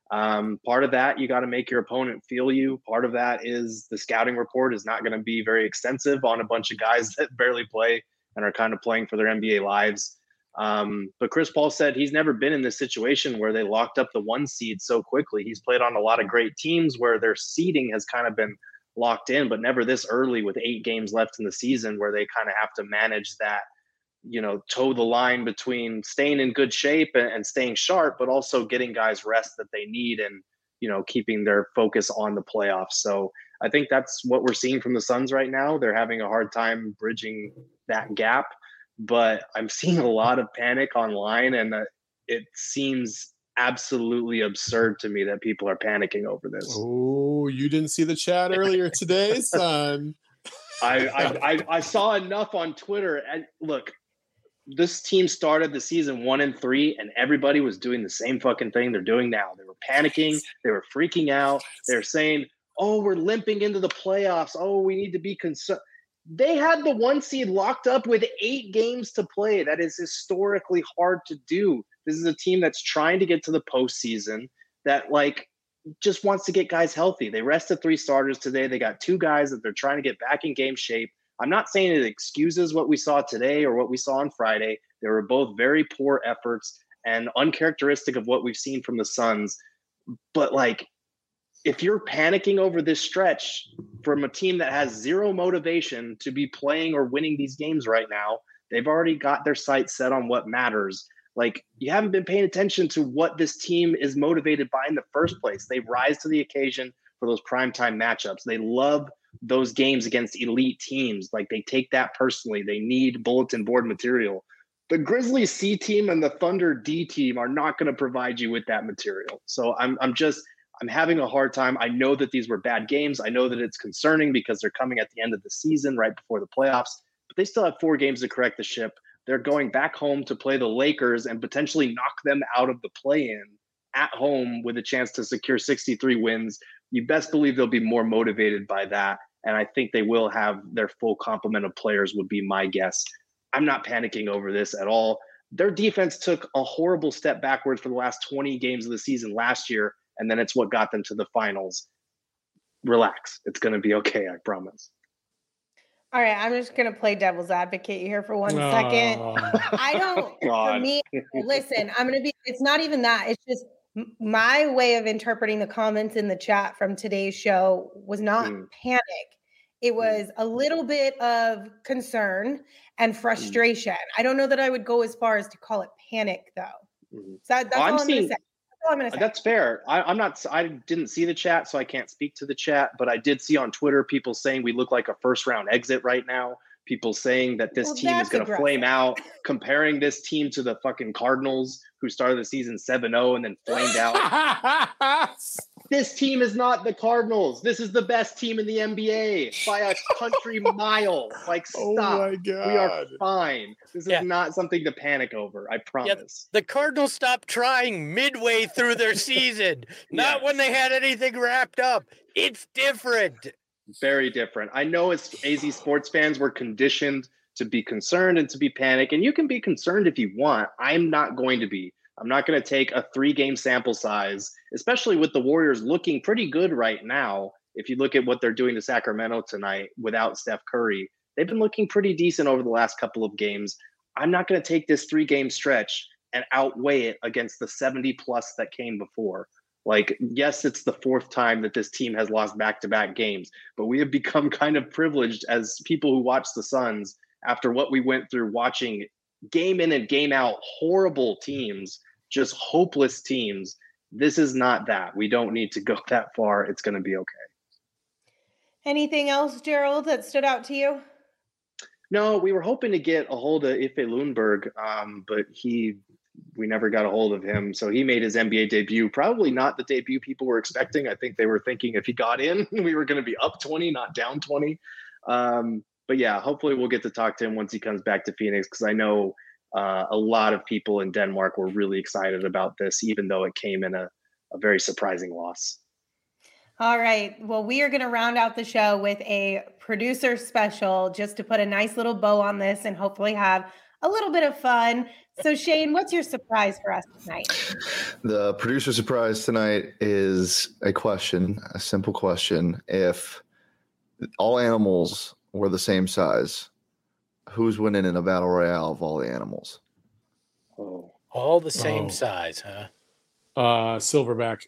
Um, part of that, you got to make your opponent feel you. Part of that is the scouting report is not going to be very extensive on a bunch of guys that barely play and are kind of playing for their N B A lives. Um, but Chris Paul said he's never been in this situation where they locked up the one seed so quickly. He's played on a lot of great teams where their seeding has kind of been locked in, but never this early with eight games left in the season where they kind of have to manage that, you know, toe the line between staying in good shape and, and staying sharp, but also getting guys rest that they need and, you know, keeping their focus on the playoffs. So I think that's what we're seeing from the Suns right now. They're having a hard time bridging that gap, but I'm seeing a lot of panic online, and uh, it seems absolutely absurd to me that people are panicking over this. Oh, you didn't see the chat earlier today, son. I, I, I I saw enough on Twitter. And look, this team started the season one and three, and everybody was doing the same fucking thing they're doing now. They were panicking. They were freaking out. They're saying, oh, we're limping into the playoffs. Oh, we need to be concerned. They had the one seed locked up with eight games to play. That is historically hard to do. This is a team that's trying to get to the postseason, that like just wants to get guys healthy. They rested three starters today. They got two guys that they're trying to get back in game shape. I'm not saying it excuses what we saw today or what we saw on Friday. They were both very poor efforts and uncharacteristic of what we've seen from the Suns. But like, if you're panicking over this stretch from a team that has zero motivation to be playing or winning these games right now, they've already got their sights set on what matters. Like, you haven't been paying attention to what this team is motivated by in the first place. They rise to the occasion for those primetime matchups. They love those games against elite teams. Like, they take that personally. They need bulletin board material. The Grizzlies C team and the Thunder D team are not going to provide you with that material. So I'm I'm just I'm having a hard time. I know that these were bad games. I know that it's concerning because they're coming at the end of the season, right before the playoffs, but they still have four games to correct the ship. They're going back home to play the Lakers and potentially knock them out of the play-in at home with a chance to secure sixty-three wins. You best believe they'll be more motivated by that. And I think they will have their full complement of players, would be my guess. I'm not panicking over this at all. Their defense took a horrible step backwards for the last twenty games of the season last year, and then it's what got them to the finals. Relax. It's going to be okay, I promise. All right, I'm just going to play devil's advocate here for one oh. second. I don't, God. For me, listen, I'm going to be, it's not even that. It's just my way of interpreting the comments in the chat from today's show was not mm. panic. It was a little bit of concern and frustration. Mm. I don't know that I would go as far as to call it panic, though. Mm-hmm. So that's well, all I'm, I'm going to say. I'm gonna say. That's fair. I, I'm not. I didn't see the chat, so I can't speak to the chat. But I did see on Twitter people saying we look like a first round exit right now. People saying that this well, team is going to flame out, comparing this team to the fucking Cardinals, who started the season seven oh and then flamed out. This team is not the Cardinals. This is the best team in the N B A by a country mile. Like, stop. Oh my God. We are fine. This is yeah. not something to panic over. I promise. Yeah, the Cardinals stopped trying midway through their season, not yeah. when they had anything wrapped up. It's different. Very different. I know as A Z sports fans, we're conditioned to be concerned and to be panic. And you can be concerned if you want. I'm not going to be. I'm not going to take a three-game sample size, especially with the Warriors looking pretty good right now. If you look at what they're doing to Sacramento tonight without Steph Curry, they've been looking pretty decent over the last couple of games. I'm not going to take this three-game stretch and outweigh it against the seventy-plus that came before. Like, yes, it's the fourth time that this team has lost back-to-back games, but we have become kind of privileged as people who watch the Suns after what we went through watching game in and game out horrible teams, just hopeless teams. This is not that. We don't need to go that far. It's going to be okay. Anything else, Gerald, that stood out to you? No, we were hoping to get a hold of Ife Lundberg, um, but he we never got a hold of him. So he made his N B A debut. Probably not the debut people were expecting. I think they were thinking if he got in, we were going to be up twenty, not down twenty. Um, but yeah, hopefully we'll get to talk to him once he comes back to Phoenix, because I know uh, a lot of people in Denmark were really excited about this, even though it came in a, a very surprising loss. All right. Well, we are going to round out the show with a producer special just to put a nice little bow on this and hopefully have a little bit of fun. So Shane, what's your surprise for us tonight? The producer surprise tonight is a question, a simple question. If all animals were the same size, who's winning in a battle royale of all the animals? Oh. All the same Oh. size, huh? Uh, Silverback.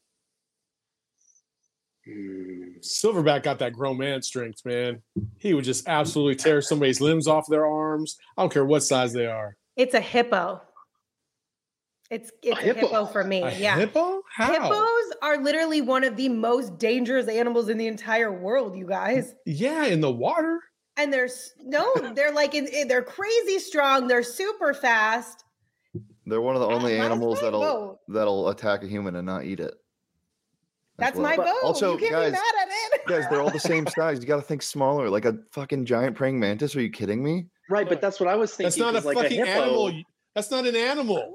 Hmm. Silverback got that grown man strength, man. He would just absolutely tear somebody's limbs off their arms. I don't care what size they are. It's a hippo. It's it's a, hippo? hippo for me. A yeah. hippo? How? Hippos are literally one of the most dangerous animals in the entire world, you guys. Yeah, in the water. And they're s- no, they're like in, in- they're crazy strong. They're super fast. They're one of the only That's animals my that'll vote. that'll attack a human and not eat it. as That's well. my But vote. Also, you can't guys, be mad at it. guys, they're all the same size. You got to think smaller, like a fucking giant praying mantis. Are you kidding me? Right, but that's what I was thinking. That's not a 'cause like fucking a hippo, animal. That's not an animal.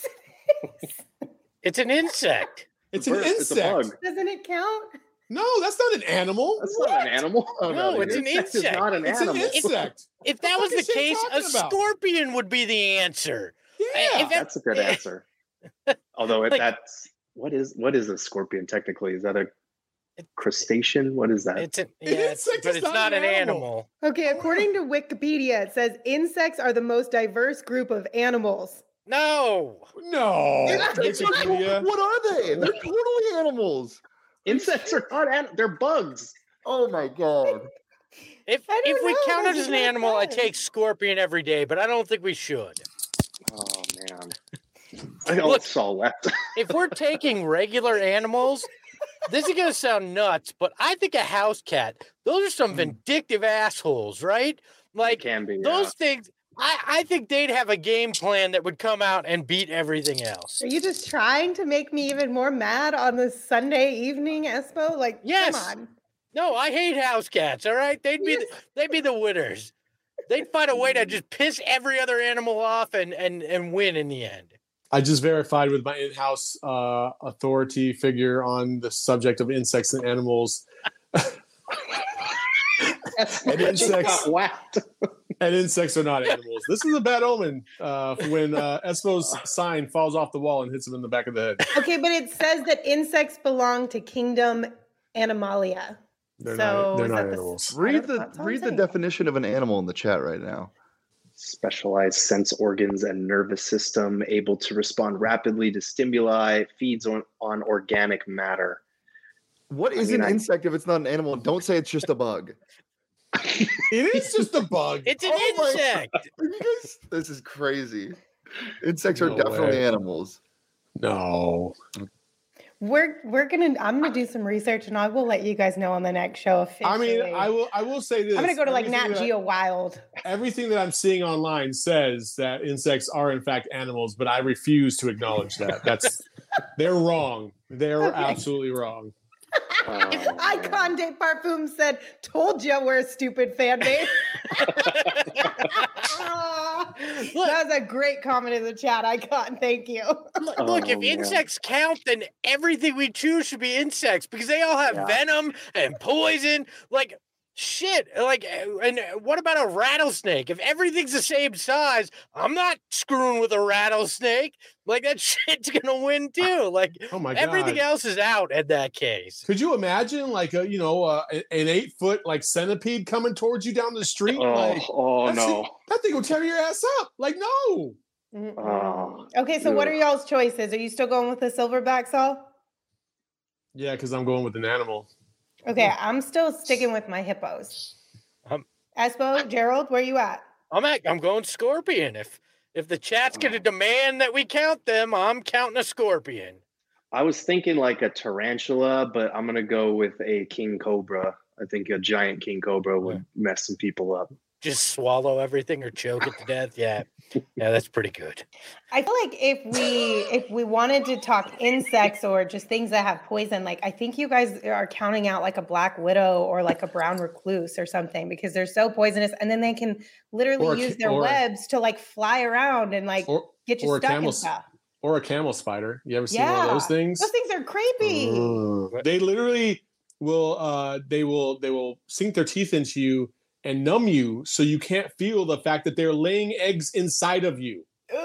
It's an insect. It's a an bird, it's a insect. bug. Doesn't it count? No, that's not an animal. That's not an animal. Oh, No, it's an Insect is insect. not an It's an animal. insect. If that What was the the fuck is Shane case, a talking about? scorpion would be the answer. Yeah. If that- That's a good answer. Although it, Like- that's what is what is a scorpion technically? Is that a crustacean? What is that? It's an, An yeah, it's- insect but is it's not not an an animal. animal. Okay, according to Wikipedia, it says insects are the most diverse group of animals. No. No. Insects are- Wikipedia. what are they? They're totally animals. Insects are not an- they're bugs. Oh my god. If I don't if we know, count that it as an doesn't make animal, I sense. take scorpion every day, but I don't think we should. Oh man. I got Look. saw left. If we're taking regular animals, this is gonna sound nuts, but I think a house cat, those are some vindictive assholes, right? Like can be those things, I, I think they'd have a game plan that would come out and beat everything else. Are you just trying to make me even more mad on this Sunday evening, Espo? Like, Yes. come on. No, I hate house cats, all right? They'd be the, they'd be the winners. They'd find a way to just piss every other animal off and and and win in the end. I just verified with my in-house uh, authority figure on the subject of insects and animals. And insects. got whacked. And insects are not animals. This is a bad omen uh, when uh, Espo's sign falls off the wall and hits him in the back of the head. Okay, but it says that insects belong to kingdom Animalia. They're So not, they're is not that the- animals. I Read don't- the that's all I'm read the saying. definition of an animal in the chat right now. Specialized sense organs and nervous system able to respond rapidly to stimuli, feeds on, on organic matter. What I is mean, an I- insect if it's not an animal? Don't say it's just a bug. It is just a bug. It's an Oh my- insect. You guys, this is crazy. Insects are No definitely way. animals. No. We're we're gonna I'm gonna do some research and I will let you guys know on the next show officially. I mean, I will. I will say this. I'm gonna go to like Everything Nat that- Geo Wild. Everything that I'm seeing online says that insects are in fact animals, but I refuse to acknowledge that. That's they're wrong. They're Okay. absolutely wrong. Oh, Icon de Parfum said, "Told you we're a stupid fan base." Ah, that was a great comment in the chat, Icon. Thank you. Look, look, if Oh, man. insects count, then everything we choose should be insects because they all have Yeah. venom and poison. Like shit. Like, uh, and what about a rattlesnake? If everything's the same size, I'm not screwing with a rattlesnake. Like that shit's gonna win too. Like Oh my god. everything else is out in that case. Could you imagine like a you know uh, an eight foot like centipede coming towards you down the street? Oh, like oh that's no. it. That thing will tear your ass up. Like no. Mm-mm. Oh, Okay, so what ugh. are y'all's choices? Are you still going with the silverback, Saul? Yeah, because I'm going with an animal. Okay, I'm still sticking with my hippos. Um, Espo, Gerald, where you at? I'm at, I'm going scorpion. If if the chat's gonna demand that we count them, I'm counting a scorpion. I was thinking like a tarantula, but I'm gonna go with a king cobra. I think a giant king cobra would mess some people up. Just swallow everything or choke it to death. Yeah, yeah, that's pretty good. I feel like if we if we wanted to talk insects or just things that have poison, like I think you guys are counting out like a black widow or like a brown recluse or something because they're so poisonous, and then they can literally Or a use ca- their or- webs to like fly around and like Or get you or a stuck camel and stuff. or a camel spider. You ever seen one Yeah, of those things? Those things are creepy. Ugh. They literally will uh they will they will sink their teeth into you and numb you so you can't feel the fact that they're laying eggs inside of you. Ugh.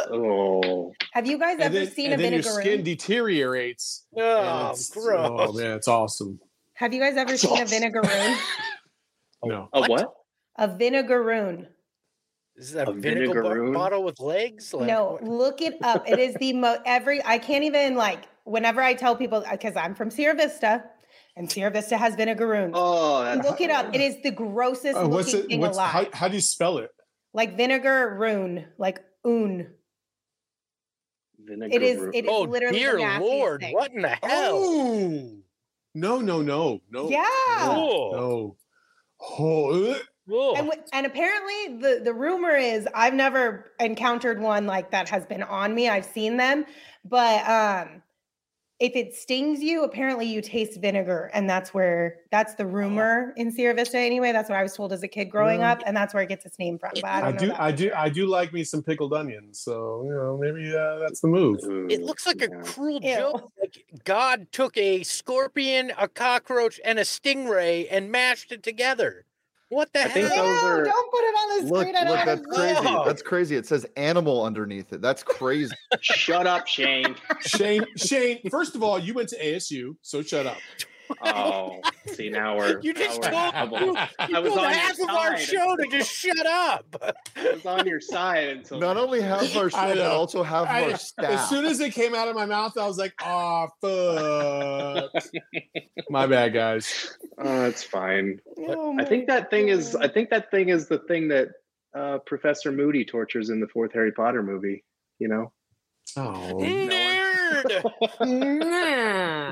Oh, Have you guys And ever then, seen and a then your skin vinegaroon? deteriorates. and Oh, it's- gross. Oh man, it's awesome. Have you guys ever That's seen awesome. a vinegaroon? No. a what? A vinegaroon. Is that A a vinegar bo- vinegaroon? bottle with legs? Like, No, what? look it up. It is the most every I can't even like whenever I tell people because I'm from Sierra Vista and Sierra Vista has vinegaroons. Oh, that's Look it up. It is the grossest Uh, what's looking it? thing What's alive. how, how do you spell it? Like vinegaroon, like oon. vinegar. It is it is Oh, literally dear the nastiest Lord. thing. What in the hell? Oh no no no no. Yeah. Oh. No. Oh, ugh. Oh. And w- and apparently the the rumor is I've never encountered one like that has been on me. I've seen them, but um if it stings you, apparently you taste vinegar, and that's where that's the rumor in Sierra Vista anyway. That's what I was told as a kid growing Yeah. up, and that's where it gets its name from. But I I don't know. do that I for do sure. I do like me some pickled onions. So you know maybe uh, that's the move. It looks like a Yeah. cruel Ew. joke. Like God took a scorpion, a cockroach, and a stingray and mashed it together. What the I think hell? those Ew, are- don't put it on the Look, screen. I don't look, wanna that's see it. crazy. No. That's crazy. It says animal underneath it. That's crazy. Shut up, Shane. Shane Shane. First of all, you went to A S U, so shut up. Oh, see now we're You just now we're told- double. you- I was Told on half your of our side. show to just shut up. I was on your side until Not only half our show, I but know. also half I- of our as staff. soon as it came out of my mouth, I was like, "Oh fuck." My bad, guys. Oh, it's fine. Oh I my think that thing is. God. I think that thing is the thing that uh, Professor Moody tortures in the fourth Harry Potter movie. You know. Oh, Nerd.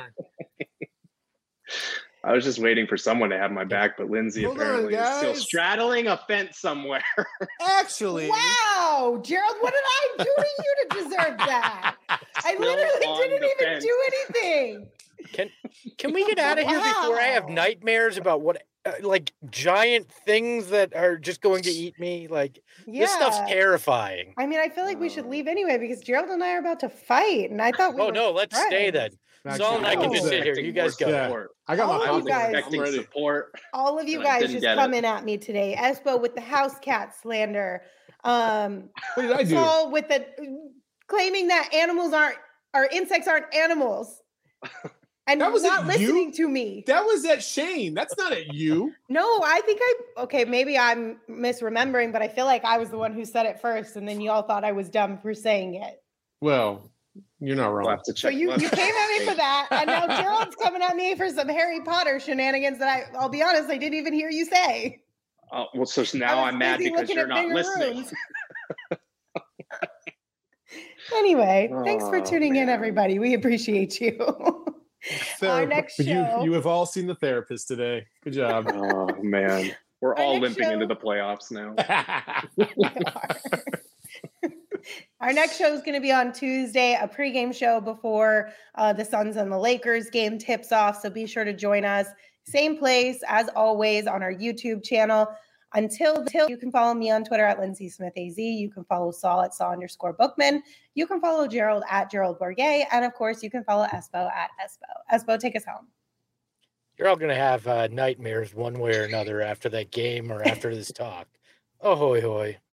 I was just waiting for someone to have my back, but Lindsay Hold on, apparently is still guys. straddling a fence somewhere. actually, Wow, Gerald, what did I do to you to deserve that? I Still literally on didn't the even fence. do anything. Can can we get out of here before I have Wow. nightmares about what uh, like giant things that are just going to eat me? Like Yeah. this stuff's terrifying. I mean, I feel like we should Oh. leave anyway because Gerald and I are about to fight, and I thought we Oh were no, let's stay then. friends. Saul and I can No. just sit here. You guys go. Yeah. I got All my of I was you guys- popcorn. I'm expecting ready. support. All of you And I guys didn't just get it. coming at me today. Espo with the house cat slander. Um, What did I do? Saul with the claiming that animals aren't or insects aren't animals. And That was not at you? listening to me. That was at Shane. That's not at you. No, I think I okay, maybe I'm misremembering, but I feel like I was the one who said it first, and then you all thought I was dumb for saying it. Well, you're not We'll wrong. have to So check. you, we'll you have to came at me check. for that, and now Gerald's coming at me for some Harry Potter shenanigans that I I'll be honest, I didn't even hear you say. Oh, well, so now I was I'm mad busy because looking you're at not bigger listening. rooms. Anyway, thanks for Oh, tuning in, man. everybody. We appreciate you. Our Therap- next you show- you have all seen the therapist today. Good job. Oh man, we're Our all next limping into show- the playoffs now. Our next show is going to be on Tuesday, a pregame show before uh, the Suns and the Lakers game tips off. So be sure to join us. Same place as always on our YouTube channel. Until, until you can follow me on Twitter at Lindsay Smith A Z. You can follow Saul at Saul underscore Bookman. You can follow Gerald at Gerald Bourget. And of course, you can follow Espo at Espo. Espo, take us home. You're all gonna have uh, nightmares one way or another after that game or after this talk. Oh hoy hoy.